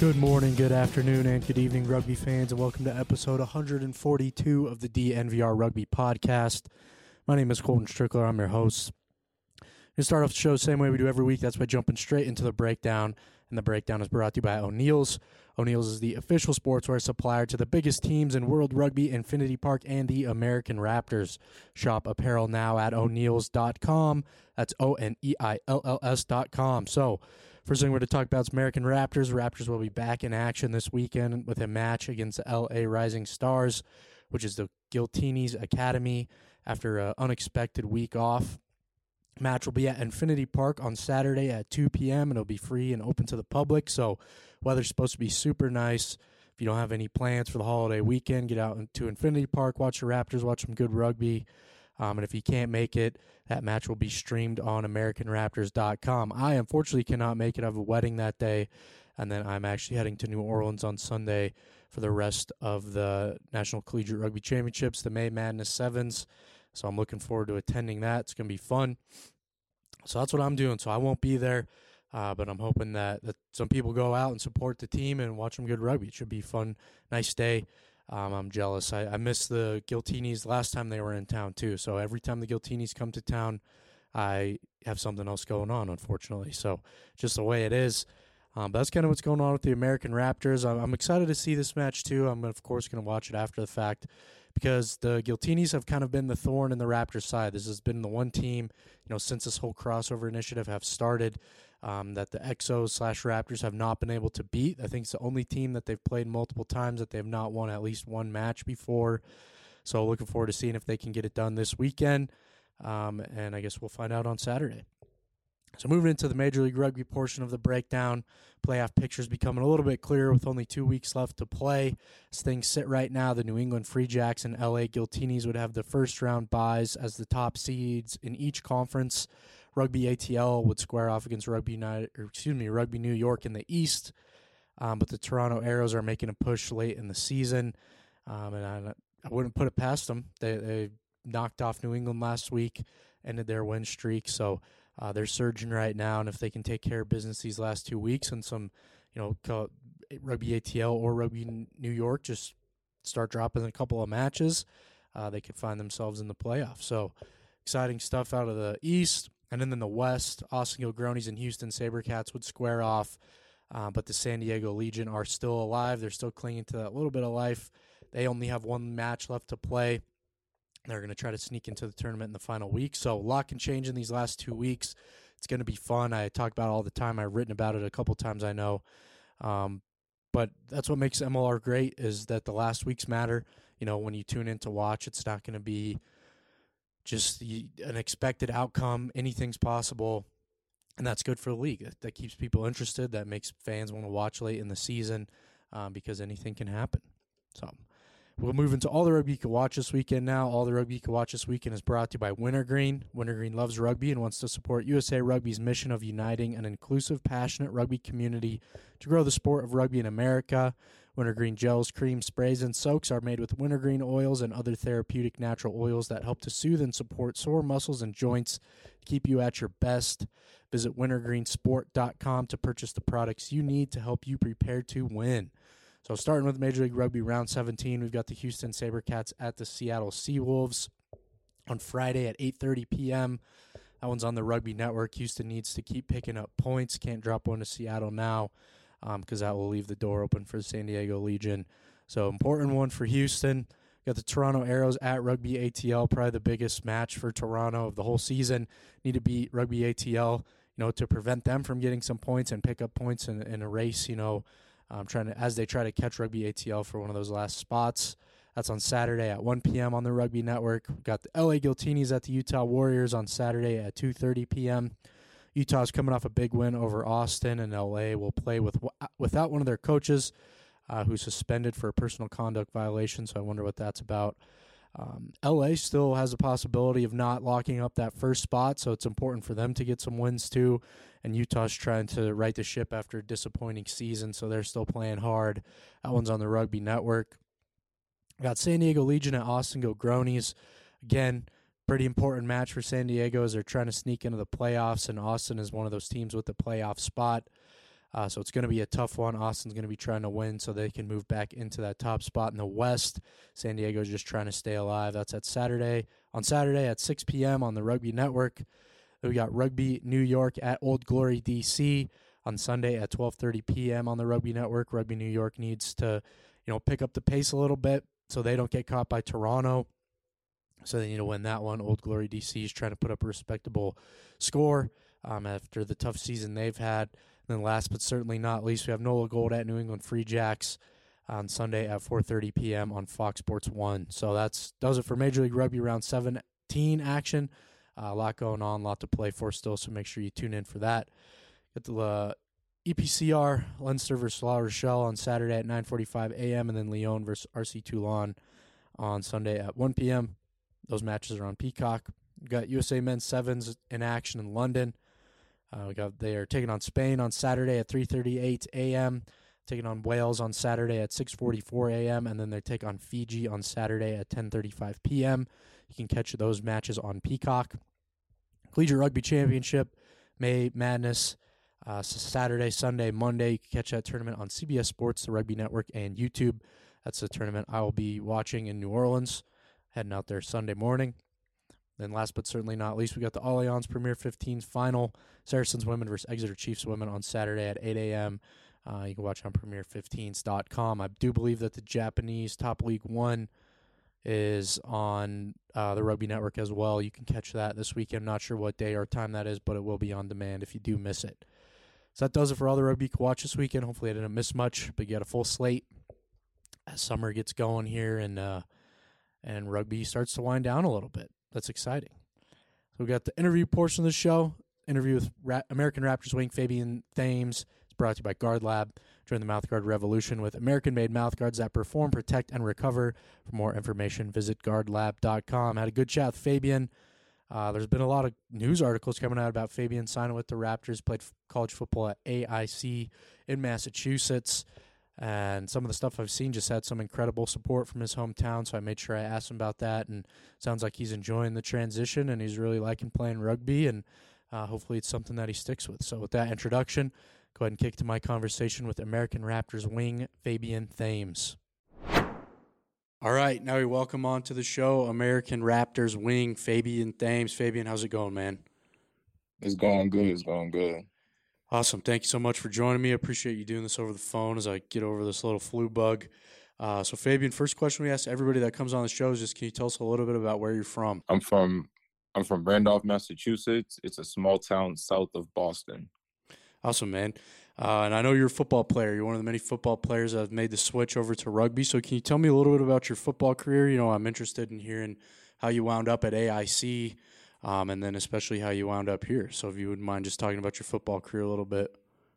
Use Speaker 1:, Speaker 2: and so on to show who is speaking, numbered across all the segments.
Speaker 1: Good morning, good afternoon, and good evening, rugby fans, and welcome to episode 142 of the DNVR Rugby Podcast. My name is Colton Strickler. I'm your host. We're going to start off the show the same way we do every week. That's by jumping straight into the breakdown, and the breakdown is brought to you by O'Neill's. O'Neill's is the official sportswear supplier to the biggest teams in World Rugby, Infinity Park, and the American Raptors. Shop apparel now at O'Neills.com. That's Oneills.com. So, first thing we're going to talk about is American Raptors. Raptors will be back in action this weekend with a match against the LA Rising Stars, which is the Giltinis Academy, after an unexpected week off. Match will be at Infinity Park on Saturday at 2 p.m. and it'll be free and open to the public. So weather's supposed to be super nice. If you don't have any plans for the holiday weekend, get out to Infinity Park, watch the Raptors, watch some good rugby. And if you can't make it, that match will be streamed on AmericanRaptors.com. I unfortunately cannot make it. I have a wedding that day, and then I'm actually heading to New Orleans on Sunday for the rest of the National Collegiate Rugby Championships, the May Madness Sevens. So I'm looking forward to attending that. It's going to be fun. So that's what I'm doing. So I won't be there, but I'm hoping that some people go out and support the team and watch some good rugby. It should be fun, nice day. I'm jealous. I missed the Giltinis last time they were in town, too. So every time the Giltinis come to town, I have something else going on, unfortunately. So just the way it is. But that's kind of what's going on with the American Raptors. I'm excited to see this match, too. I'm, of course, going to watch it after the fact because the Giltinis have kind of been the thorn in the Raptors' side. This has been the one team, since this whole crossover initiative have started, that the Exos/Raptors have not been able to beat. I think it's the only team that they've played multiple times that they have not won at least one match before. So looking forward to seeing if they can get it done this weekend. And I guess we'll find out on Saturday. So moving into the Major League Rugby portion of the breakdown, playoff pictures becoming a little bit clearer with only 2 weeks left to play. As things sit right now, the New England Free Jacks and LA Giltinis would have the first round byes as the top seeds in each conference. Rugby ATL would square off against Rugby New York in the East, but the Toronto Arrows are making a push late in the season, and I wouldn't put it past them. They knocked off New England last week, ended their win streak, so they're surging right now, and if they can take care of business these last 2 weeks and some, Rugby ATL or Rugby New York just start dropping a couple of matches, they could find themselves in the playoffs. So exciting stuff out of the East. And then in the West, Austin Gilgronis and Houston SaberCats would square off, but the San Diego Legion are still alive. They're still clinging to that little bit of life. They only have one match left to play. They're going to try to sneak into the tournament in the final week. So a lot can change in these last 2 weeks. It's going to be fun. I talk about it all the time. I've written about it a couple times, I know. But that's what makes MLR great is that the last weeks matter. When you tune in to watch, it's not going to be just an expected outcome. Anything's possible, and that's good for the league. That keeps people interested. That makes fans want to watch late in the season because anything can happen. So we'll move into all the rugby you can watch this weekend now. All the rugby you can watch this weekend is brought to you by Wintergreen. Wintergreen loves rugby and wants to support USA Rugby's mission of uniting an inclusive, passionate rugby community to grow the sport of rugby in America. Wintergreen gels, creams, sprays, and soaks are made with wintergreen oils and other therapeutic natural oils that help to soothe and support sore muscles and joints to keep you at your best. Visit wintergreensport.com to purchase the products you need to help you prepare to win. So starting with Major League Rugby Round 17, we've got the Houston SaberCats at the Seattle Seawolves on Friday at 8:30 p.m. That one's on the Rugby Network. Houston needs to keep picking up points. Can't drop one to Seattle now because that will leave the door open for the San Diego Legion. So important one for Houston. Got the Toronto Arrows at Rugby ATL, probably the biggest match for Toronto of the whole season. Need to beat Rugby ATL, to prevent them from getting some points and pick up points in a race, as they try to catch Rugby ATL for one of those last spots. That's on Saturday at 1 p.m. on the Rugby Network. We've got the LA Giltinis at the Utah Warriors on Saturday at 2:30 p.m. Utah's coming off a big win over Austin, and LA will play without one of their coaches who's suspended for a personal conduct violation, so I wonder what that's about. LA still has a possibility of not locking up that first spot, so it's important for them to get some wins too. And Utah's trying to right the ship after a disappointing season, so they're still playing hard. That one's on the Rugby Network. Got San Diego Legion at Austin Gilgronis. Again, pretty important match for San Diego as they're trying to sneak into the playoffs, and Austin is one of those teams with the playoff spot. So it's going to be a tough one. Austin's going to be trying to win so they can move back into that top spot in the West. San Diego's just trying to stay alive. That's on Saturday at 6 p.m. on the Rugby Network. Then we got Rugby New York at Old Glory, D.C. on Sunday at 12:30 p.m. on the Rugby Network. Rugby New York needs to, pick up the pace a little bit so they don't get caught by Toronto. So they need to win that one. Old Glory DC is trying to put up a respectable score after the tough season they've had. And then last but certainly not least, we have Nola Gold at New England Free Jacks on Sunday at 4:30 p.m. on Fox Sports 1. So that does it for Major League Rugby Round 17 action. A lot going on, a lot to play for still, so make sure you tune in for that. Get the EPCR, Leinster versus La Rochelle on Saturday at 9:45 a.m. and then Lyon versus RC Toulon on Sunday at 1 p.m. Those matches are on Peacock. We've got USA Men's Sevens in action in London. They are taking on Spain on Saturday at 3:38 a.m., taking on Wales on Saturday at 6:44 a.m., and then they take on Fiji on Saturday at 10:35 p.m. You can catch those matches on Peacock. Collegiate Rugby Championship, May Madness, Saturday, Sunday, Monday. You can catch that tournament on CBS Sports, the Rugby Network, and YouTube. That's the tournament I will be watching in New Orleans, heading out there Sunday morning. Then last but certainly not least, we got the Allianz Premier 15 final, Saracens women versus Exeter Chiefs women on Saturday at 8 a.m. You can watch on premier15s.com. I do believe that the Japanese Top League 1 is on the Rugby Network as well. You can catch that this weekend. Not sure what day or time that is, but it will be on demand if you do miss it. So that does it for all the rugby you can watch this weekend. Hopefully I didn't miss much, but you got a full slate as summer gets going here and rugby starts to wind down a little bit. That's exciting. So we got the interview portion of the show. Interview with American Raptors wing Fabian Thames. It's brought to you by Guard Lab. Join the mouthguard revolution with American-made mouthguards that perform, protect, and recover. For more information, visit guardlab.com. Had a good chat with Fabian. There's been a lot of news articles coming out about Fabian signing with the Raptors, played college football at AIC in Massachusetts. And some of the stuff I've seen just had some incredible support from his hometown, so I made sure I asked him about that. And it sounds like he's enjoying the transition, and he's really liking playing rugby, and hopefully it's something that he sticks with. So with that introduction, go ahead and kick to my conversation with American Raptors wing Fabian Thames. All right, now we welcome on to the show American Raptors wing Fabian Thames. Fabian, how's it going, man?
Speaker 2: It's going good. It's going good.
Speaker 1: Awesome. Thank you so much for joining me. I appreciate you doing this over the phone as I get over this little flu bug. So, Fabian, first question we ask everybody that comes on the show is just, can you tell us a little bit about where you're from?
Speaker 2: I'm from Randolph, Massachusetts. It's a small town south of Boston.
Speaker 1: Awesome, man. And I know you're a football player. You're one of the many football players that have made the switch over to rugby. So can you tell me a little bit about your football career? I'm interested in hearing how you wound up at AIC, and then especially how you wound up here. So if you wouldn't mind just talking about your football career a little bit.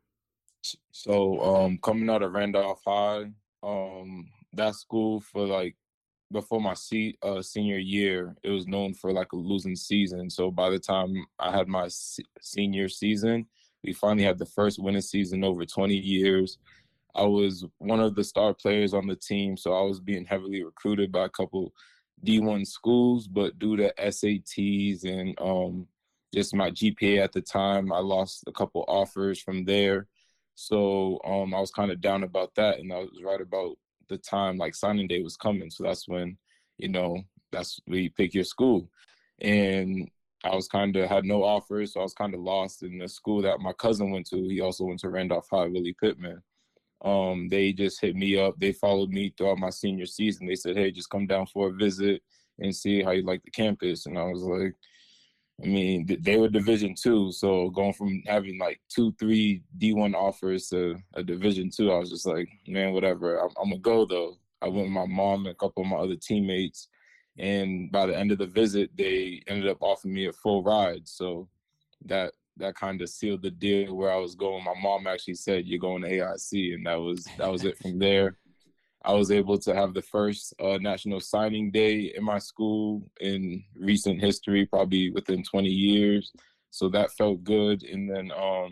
Speaker 2: So coming out of Randolph High, that school before my senior year, it was known for a losing season. So by the time I had my senior season, we finally had the first winning season over 20 years. I was one of the star players on the team, so I was being heavily recruited by a couple D1 schools, but due to SATs and just my GPA at the time, I lost a couple offers from there. So I was kind of down about that, and that was right about the time signing day was coming. So that's when, that's where you pick your school. And I was had no offers, so I was kind of lost in the school that my cousin went to. He also went to Randolph High, Willie Pittman. They just hit me up. They followed me throughout my senior season. They said, hey, just come down for a visit and see how you like the campus. And I was like, they were Division II, so going from having 2-3 D1 offers to a Division II, I was just like, man, whatever. I'm going to go, though. I went with my mom and a couple of my other teammates. And by the end of the visit, they ended up offering me a full ride. So that kind of sealed the deal where I was going. My mom actually said, you're going to AIC. And that was it from there. I was able to have the first national signing day in my school in recent history, probably within 20 years. So that felt good. And then,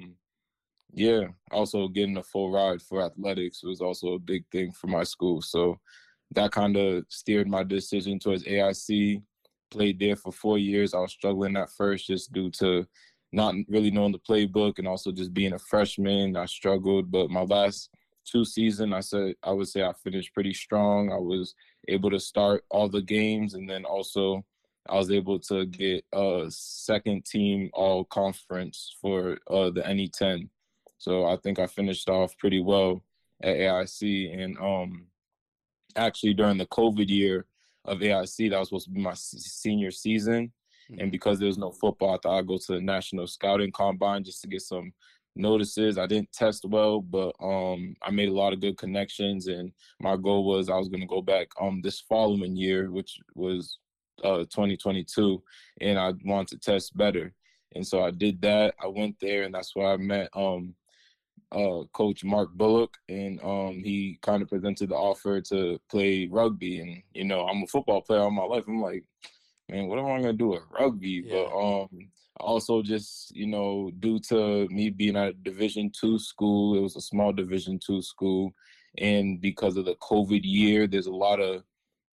Speaker 2: also getting a full ride for athletics was also a big thing for my school. So that kind of steered my decision towards AIC. Played there for 4 years. I was struggling at first just due to not really knowing the playbook and also just being a freshman, I struggled. But my last 2 seasons, I would say I finished pretty strong. I was able to start all the games, and then also I was able to get a second team all conference for the NE10. So I think I finished off pretty well at AIC. And actually during the COVID year of AIC, that was supposed to be my senior season. And because there was no football, I thought I'd go to the National Scouting Combine just to get some notices. I didn't test well, but I made a lot of good connections. And my goal was I was going to go back this following year, which was 2022, and I wanted to test better. And so I did that. I went there, and that's where I met Coach Mark Bullock, and he kind of presented the offer to play rugby. And I'm a football player all my life. I'm like, man, what am I gonna do with rugby?
Speaker 1: Yeah.
Speaker 2: But also just due to me being at a Division II school, it was a small Division II school, and because of the COVID year, there's a lot of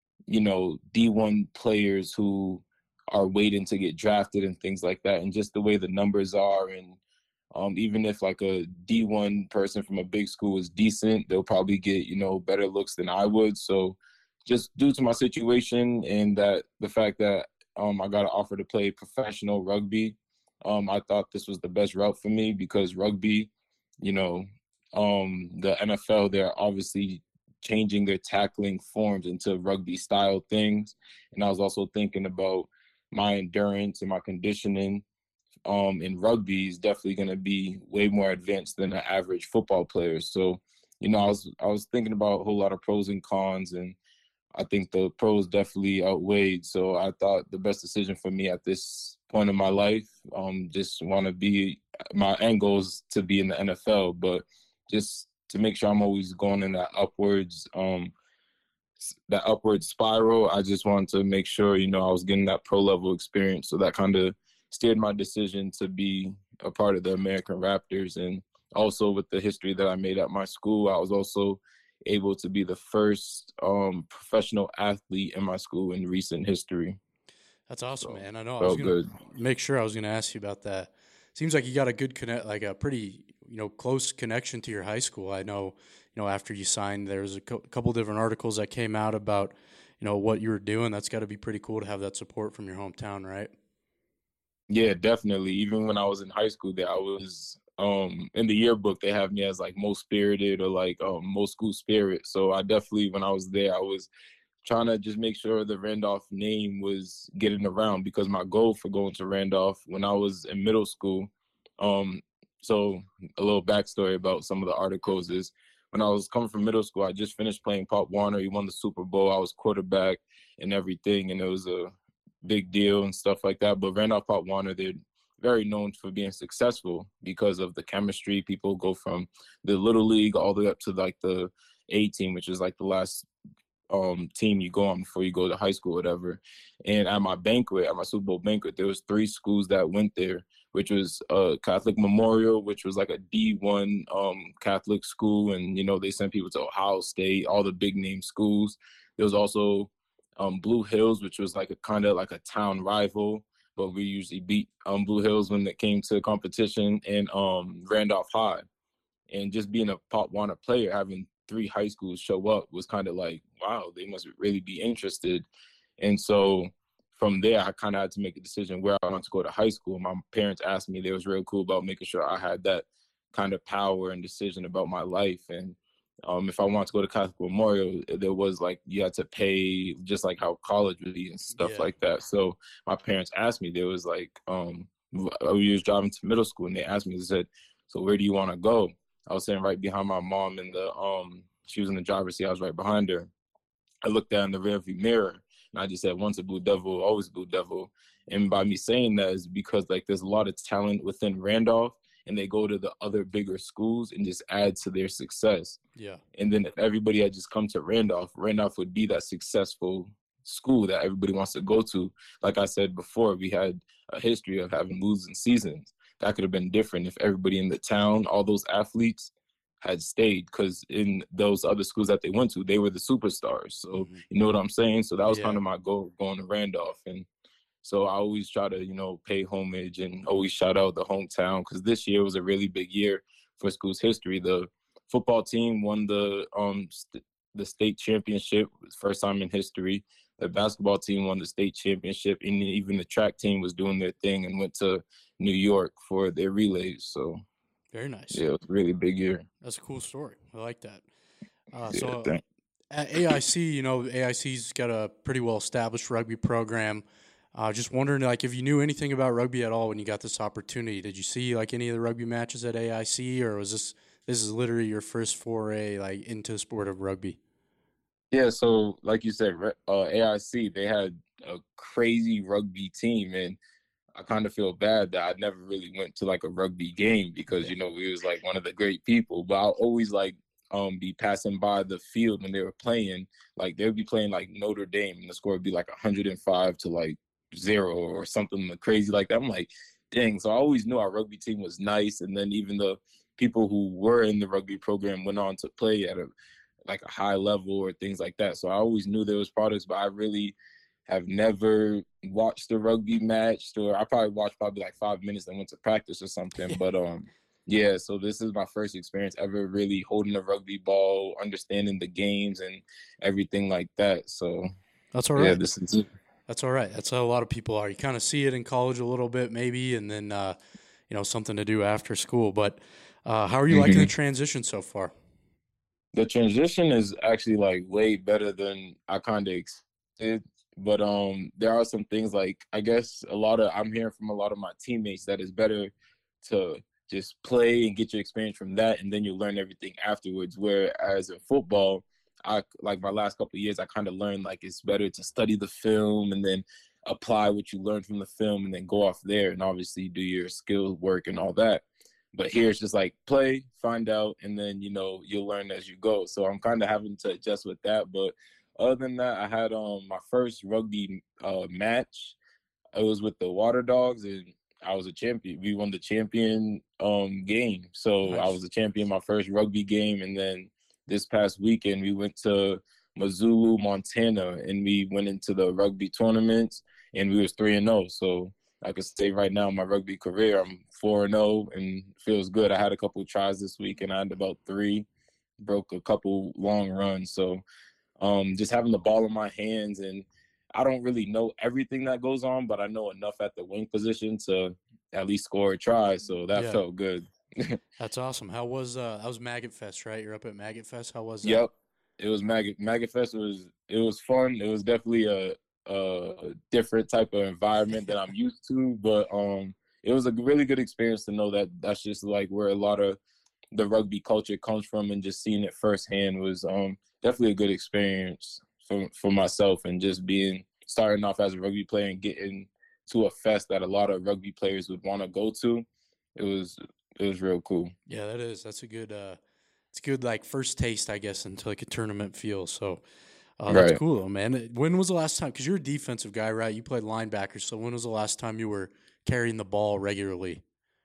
Speaker 2: D1 players who are waiting to get drafted and things like that, and just the way the numbers are. And even if like a D1 person from a big school is decent, they'll probably get, better looks than I would. So just due to my situation and that the fact that I got an offer to play professional rugby, I thought this was the best route for me because rugby, the NFL, they're obviously changing their tackling forms into rugby style things. And I was also thinking about my endurance and my conditioning in rugby is definitely going to be way more advanced than an average football player. So, I was thinking about a whole lot of pros and cons, and I think the pros definitely outweighed. So I thought the best decision for me at this point in my life, just want to be, my end goal is to be in the NFL, but just to make sure I'm always going in that upward spiral. I just wanted to make sure, I was getting that pro level experience. So that kind of steered my decision to be a part of the American Raptors. And also with the history that I made at my school, I was also able to be the first professional athlete in my school in recent history.
Speaker 1: That's awesome, man. I know. I
Speaker 2: Felt
Speaker 1: was going to
Speaker 2: good.
Speaker 1: make sure I was going to ask you about that. Seems like you got a good like a pretty, close connection to your high school. I know, after you signed, there was a couple different articles that came out about, what you were doing. That's got to be pretty cool to have that support from your hometown, right?
Speaker 2: Yeah, definitely. Even when I was in high school there, I was in the yearbook they have me as like most spirited or like most school spirit. So I definitely, when I was there, I was trying to just make sure the Randolph name was getting around because my goal for going to Randolph when I was in middle school, so a little backstory about some of the articles is when I was coming from middle school, I just finished playing Pop Warner. He won the Super Bowl. I was quarterback and everything, and it was a big deal and stuff like that. But Randolph Pop Warner, they're very known for being successful because of the chemistry. People go from the little league all the way up to like the A team, which is like the last team you go on before you go to high school, whatever. And at my Super Bowl banquet, there was 3 schools that went there, which was Catholic Memorial, which was like a D1 Catholic school, and they sent people to Ohio State, all the big name schools. There was also Blue Hills, which was like a kind of like a town rival, but we usually beat Blue Hills when it came to competition, and Randolph High. And just being a Pop Warner player, having 3 high schools show up was kind of like, wow, they must really be interested. And so from there, I kind of had to make a decision where I wanted to go to high school. My parents asked me, they was real cool about making sure I had that kind of power and decision about my life. And if I wanted to go to Catholic Memorial, there was like, you had to pay just like how college would be and stuff like that. So my parents asked me, they was like, we was driving to middle school and they asked me, they said, so where do you want to go? I was sitting right behind my mom in the, she was in the driver's seat. I was right behind her. I looked down in the rearview mirror and I just said, once a Blue Devil, always Blue Devil. And by me saying that is because like there's a lot of talent within Randolph and they go to the other bigger schools and just add to their success.
Speaker 1: Yeah.
Speaker 2: And then if everybody had just come to Randolph would be that successful school that everybody wants to go to. Like I said before, we had a history of having losing seasons. That could have been different if everybody in the town, all those athletes had stayed, because in those other schools that they went to, they were the superstars. So you know what I'm saying? So that was kind of my goal going to Randolph. And So I always try to, pay homage and always shout out the hometown, because this year was a really big year for school's history. The football team won the state championship, first time in history. The basketball team won the state championship, and even the track team was doing their thing and went to New York for their relays. So
Speaker 1: Very nice.
Speaker 2: yeah, it was a really big year.
Speaker 1: That's a cool story. I like that.
Speaker 2: Yeah,
Speaker 1: So at AIC, AIC's got a pretty well established rugby program. Just wondering, like, if you knew anything about rugby at all when you got this opportunity. Did you see like any of the rugby matches at AIC, or was this is literally your first foray like into the sport of rugby?
Speaker 2: Yeah, so like you said, AIC, they had a crazy rugby team, and I kind of feel bad that I never really went to like a rugby game, because we was like one of the great people. But I'll always like be passing by the field when they were playing. Like they would be playing like Notre Dame, and the score would be like 105 to like 0 or something crazy like that. I'm like, dang. So I always knew our rugby team was nice, and then even the people who were in the rugby program went on to play at a high level or things like that. So I always knew there was products, but I really have never watched a rugby match, or I probably watched like 5 minutes and went to practice or something. But yeah, so this is my first experience ever really holding a rugby ball, understanding the games and everything like that. So
Speaker 1: that's all right.
Speaker 2: Yeah, this is it.
Speaker 1: That's all right. That's how a lot of people are. You kind of see it in college a little bit, maybe, and then something to do after school. But how are you liking the transition so far?
Speaker 2: The transition is actually like way better than I kind of expected. But there are some things, like I guess I'm hearing from a lot of my teammates that it's better to just play and get your experience from that, and then you learn everything afterwards. Whereas in football, I like my last couple of years, I kind of learned like it's better to study the film and then apply what you learned from the film and then go off there and obviously do your skill work and all that. But here it's just like play, find out, and then you'll learn as you go. So I'm kind of having to adjust with that. But other than that, I had my first rugby match. It was with the Water Dogs, and I was a champion. We won the champion game. So
Speaker 1: Nice.
Speaker 2: I was a champion my first rugby game. And then this past weekend, we went to Missoula, Montana, and we went into the rugby tournaments, and we was 3-0. So I could say right now in my rugby career, I'm 4-0, and feels good. I had a couple of tries this week, and I had about 3, broke a couple long runs. So just having the ball in my hands, and I don't really know everything that goes on, but I know enough at the wing position to at least score a try. So that felt good.
Speaker 1: That's awesome. How was that was Maggot Fest, right? You're up at Maggot Fest. How was that?
Speaker 2: Yep. It was Maggot Fest was fun. It was definitely a different type of environment that I'm used to, but it was a really good experience to know that that's just like where a lot of the rugby culture comes from, and just seeing it firsthand was definitely a good experience for myself, and just starting off as a rugby player and getting to a fest that a lot of rugby players would want to go to. It was real cool.
Speaker 1: Yeah, that is. That's a good. It's good like first taste, I guess, into like a tournament feel. So that's
Speaker 2: Right.
Speaker 1: cool, though, man. When was the last time? Because you're a defensive guy, right? You played linebacker. So when was the last time you were carrying the ball regularly?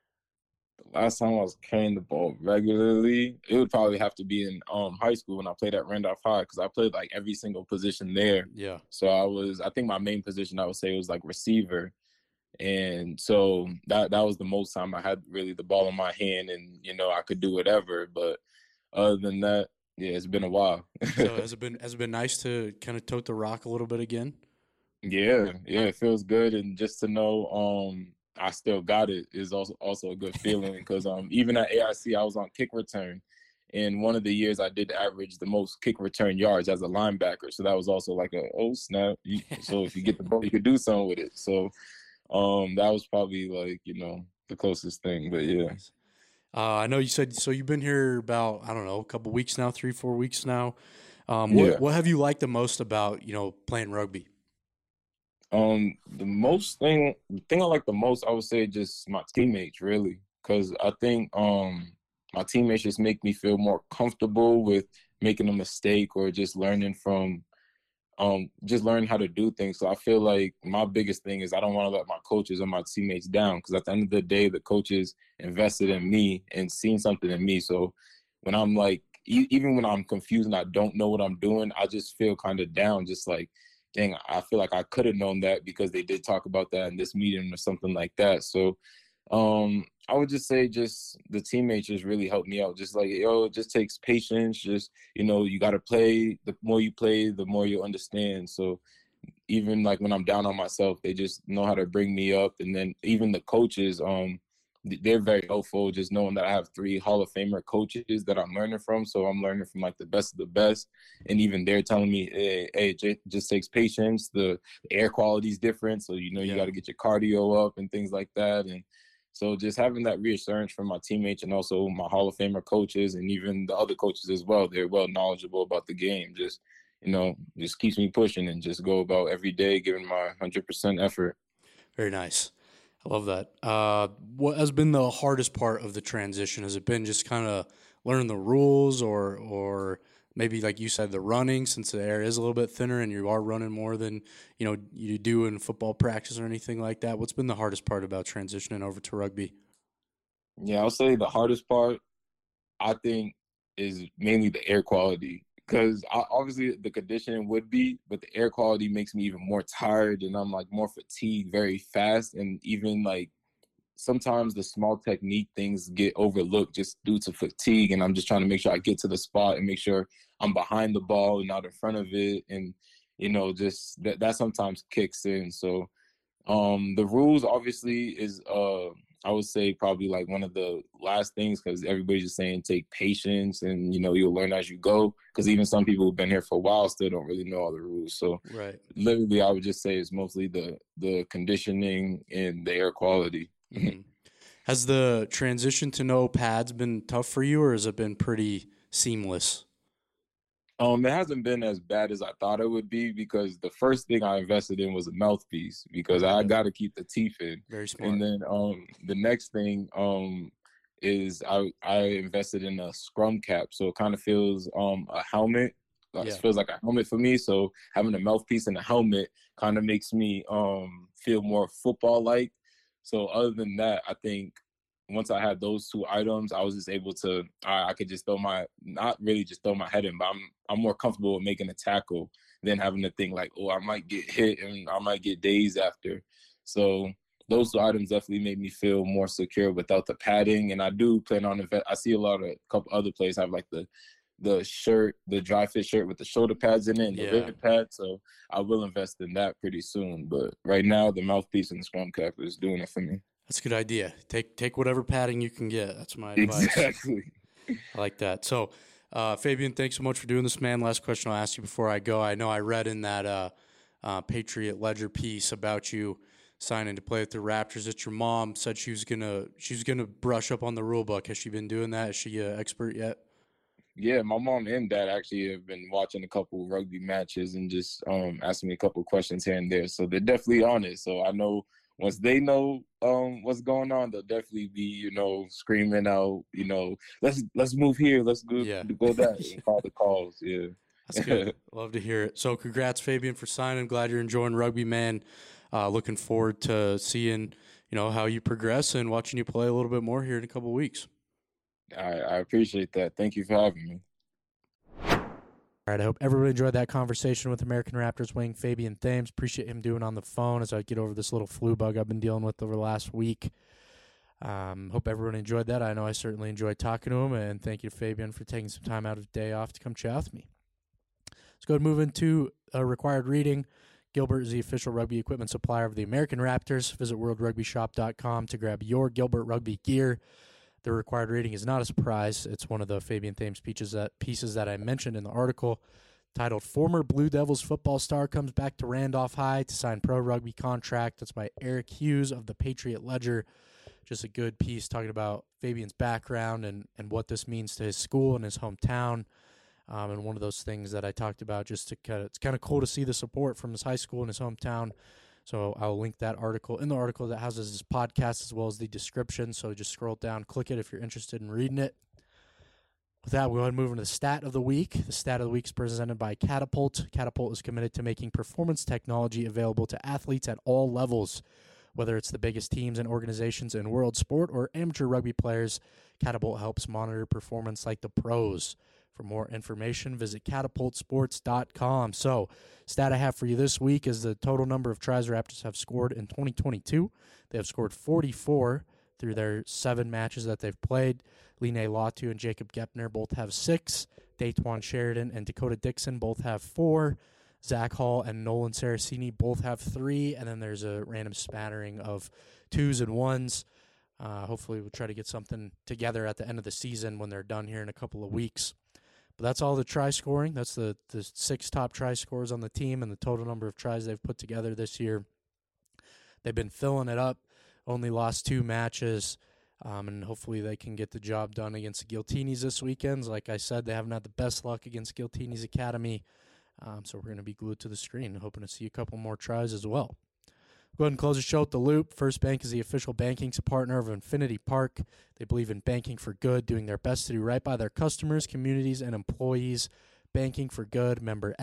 Speaker 2: Last time I was carrying the ball regularly, it would probably have to be in high school when I played at Randolph High, because I played like every single position there.
Speaker 1: Yeah.
Speaker 2: So I think my main position I would say was like receiver, and so that was the most time I had really the ball in my hand, and I could do whatever. But other than that, yeah, it's been a while.
Speaker 1: So has it been nice to kind of tote the rock a little bit again?
Speaker 2: Yeah, it feels good, and just to know I still got it is also a good feeling, because even at AIC I was on kick return, and one of the years I did average the most kick return yards as a linebacker, so that was also like a oh snap. So if you get the ball, you could do something with it. So that was probably like the closest thing, but yeah.
Speaker 1: Nice. I know you said so. You've been here about I don't know a couple weeks now, 3-4 weeks now.
Speaker 2: Yeah.
Speaker 1: What have you liked the most about playing rugby?
Speaker 2: The thing I like the most, I would say, just my teammates, really, because I think my teammates just make me feel more comfortable with making a mistake, or just learning from just learning how to do things. So I feel like my biggest thing is I don't want to let my coaches or my teammates down, because at the end of the day, the coaches invested in me and seen something in me. So when I'm like, even when I'm confused and I don't know what I'm doing, I just feel kind of down, just like dang, I feel like I could have known that because they did talk about that in this meeting or something like that. So I would just say just the teammates just really helped me out. Just like, yo, it just takes patience. Just, you got to play. The more you play, the more you understand. So even like when I'm down on myself, they just know how to bring me up. And then even the coaches, they're very helpful, just knowing that I have 3 Hall of Famer coaches that I'm learning from. So I'm learning from like the best of the best. And even they're telling me, hey, it just takes patience. The air quality is different. So, you got to get your cardio up and things like that. And so just having that reassurance from my teammates and also my Hall of Famer coaches and even the other coaches as well, they're well knowledgeable about the game. Just keeps me pushing and just go about every day giving my 100% effort.
Speaker 1: Very nice. I love that. What has been the hardest part of the transition? Has it been just kind of learning the rules, or maybe like you said, the running, since the air is a little bit thinner and you are running more than you do in football practice or anything like that? What's been the hardest part about transitioning over to rugby?
Speaker 2: Yeah, I'll say the hardest part, I think, is mainly the air quality. Because obviously the conditioning would be, but the air quality makes me even more tired and I'm like more fatigued very fast. And even like sometimes the small technique things get overlooked just due to fatigue. And I'm just trying to make sure I get to the spot and make sure I'm behind the ball and not in front of it. And, just that sometimes kicks in. So the rules obviously is I would say probably like one of the last things because everybody's just saying take patience and you'll learn as you go because even some people who've been here for a while still don't really know all the rules. So
Speaker 1: Right.
Speaker 2: literally I would just say it's mostly the conditioning and the air quality.
Speaker 1: Mm-hmm. Has the transition to no pads been tough for you, or has it been pretty seamless?
Speaker 2: It hasn't been as bad as I thought it would be because the first thing I invested in was a mouthpiece because I got to keep the teeth in.
Speaker 1: Very smart.
Speaker 2: And then the next thing is I invested in a scrum cap, so it kind of feels a helmet. It feels like a helmet for me. So having a mouthpiece and a helmet kind of makes me feel more football like. So other than that, I think once I had those 2 items, I was just able to I could just not really just throw my head in, but I'm more comfortable with making a tackle than having to think like, oh, I might get hit and I might get dazed after. So those 2 items definitely made me feel more secure without the padding. And I do plan on I see a couple other players have like the shirt, the dry fit shirt with the shoulder pads in it and the rib pad. So I will invest in that pretty soon. But right now, the mouthpiece and the scrum cap is doing it for me.
Speaker 1: That's a good idea. Take whatever padding you can get. That's my advice.
Speaker 2: Exactly.
Speaker 1: I like that. So, Fabian, thanks so much for doing this, man. Last question I'll ask you before I go. I know I read in that Patriot Ledger piece about you signing to play with the Raptors that your mom said she was gonna brush up on the rule book. Has she been doing that? Is she an expert yet?
Speaker 2: Yeah, my mom and dad actually have been watching a couple rugby matches and just asking me a couple questions here and there. So they're definitely on it. So I know once they know what's going on, they'll definitely be, screaming out, let's move here, let's go that and call the calls. Yeah.
Speaker 1: That's good. Love to hear it. So congrats, Fabian, for signing. Glad you're enjoying rugby, man. Looking forward to seeing, how you progress and watching you play a little bit more here in a couple of weeks.
Speaker 2: I appreciate that. Thank you for having me.
Speaker 1: All right, I hope everybody enjoyed that conversation with American Raptors wing Fabian Thames. Appreciate him doing on the phone as I get over this little flu bug I've been dealing with over the last week. Hope everyone enjoyed that. I know I certainly enjoyed talking to him, and thank you to Fabian for taking some time out of the day off to come chat with me. Let's go ahead and move into a required reading. Gilbert is the official rugby equipment supplier of the American Raptors. Visit worldrugbyshop.com to grab your Gilbert rugby gear. The required rating is not a surprise. It's one of the Fabian Thames pieces that I mentioned in the article, titled "Former Blue Devils Football Star Comes Back to Randolph High to Sign Pro Rugby Contract." That's by Eric Hughes of the Patriot Ledger. Just a good piece talking about Fabian's background and what this means to his school and his hometown. And one of those things that I talked about, it's kind of cool to see the support from his high school and his hometown. So I'll link that article in the article that houses his podcast as well as the description. So just scroll down, click it if you're interested in reading it. With that, we'll go ahead and move into the stat of the week. The stat of the week is presented by Catapult. Catapult is committed to making performance technology available to athletes at all levels. Whether it's the biggest teams and organizations in world sport or amateur rugby players, Catapult helps monitor performance like the pros. For more information, visit catapultsports.com. So, stat I have for you this week is the total number of tries Raptors have scored in 2022. They have scored 44 through their 7 matches that they've played. Line Latu and Jacob Gepner both have 6. Daquan Sheridan and Dakota Dixon both have 4. Zach Hall and Nolan Saraceni both have 3. And then there's a random spattering of 2s and 1s. Hopefully we'll try to get something together at the end of the season when they're done here in a couple of weeks. But that's all the try scoring. That's the 6 top try scorers on the team and the total number of tries they've put together this year. They've been filling it up, only lost 2 matches, and hopefully they can get the job done against the Giltinis this weekend. Like I said, they haven't had the best luck against Giltinis Academy, so we're going to be glued to the screen, hoping to see a couple more tries as well. Go ahead and close the show with the Loop. First Bank is the official banking partner of Infinity Park. They believe in banking for good, doing their best to do right by their customers, communities, and employees. Banking for good, member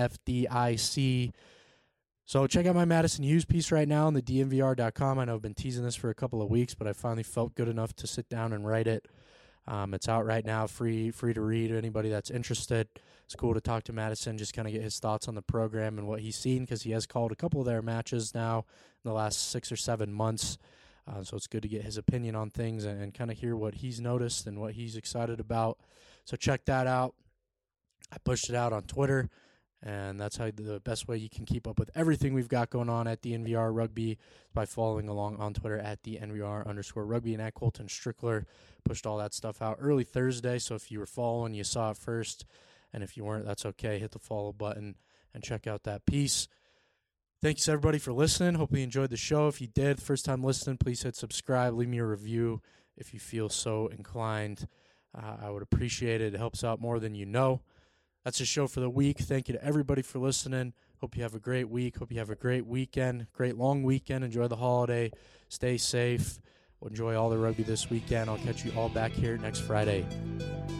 Speaker 1: FDIC. So check out my Madison Hughes piece right now on the DNVR.com. I know I've been teasing this for a couple of weeks, but I finally felt good enough to sit down and write it. It's out right now, free to read. Anybody that's interested, it's cool to talk to Madison, just kind of get his thoughts on the program and what he's seen, because he has called a couple of their matches now in the last 6 or 7 months. So it's good to get his opinion on things and kind of hear what he's noticed and what he's excited about. So check that out. I pushed it out on Twitter, and that's how the best way you can keep up with everything we've got going on at DNVR Rugby by following along on Twitter at DNVR_rugby and at Colton Strickler. Pushed all that stuff out early Thursday, so if you were following, you saw it first, and if you weren't, that's okay. Hit the follow button and check out that piece. Thanks, everybody, for listening. Hope you enjoyed the show. If you did, first time listening, please hit subscribe. Leave me a review if you feel so inclined. I would appreciate it. It helps out more than you know. That's the show for the week. Thank you to everybody for listening. Hope you have a great week. Hope you have a great weekend, great long weekend. Enjoy the holiday. Stay safe. Enjoy all the rugby this weekend. I'll catch you all back here next Friday.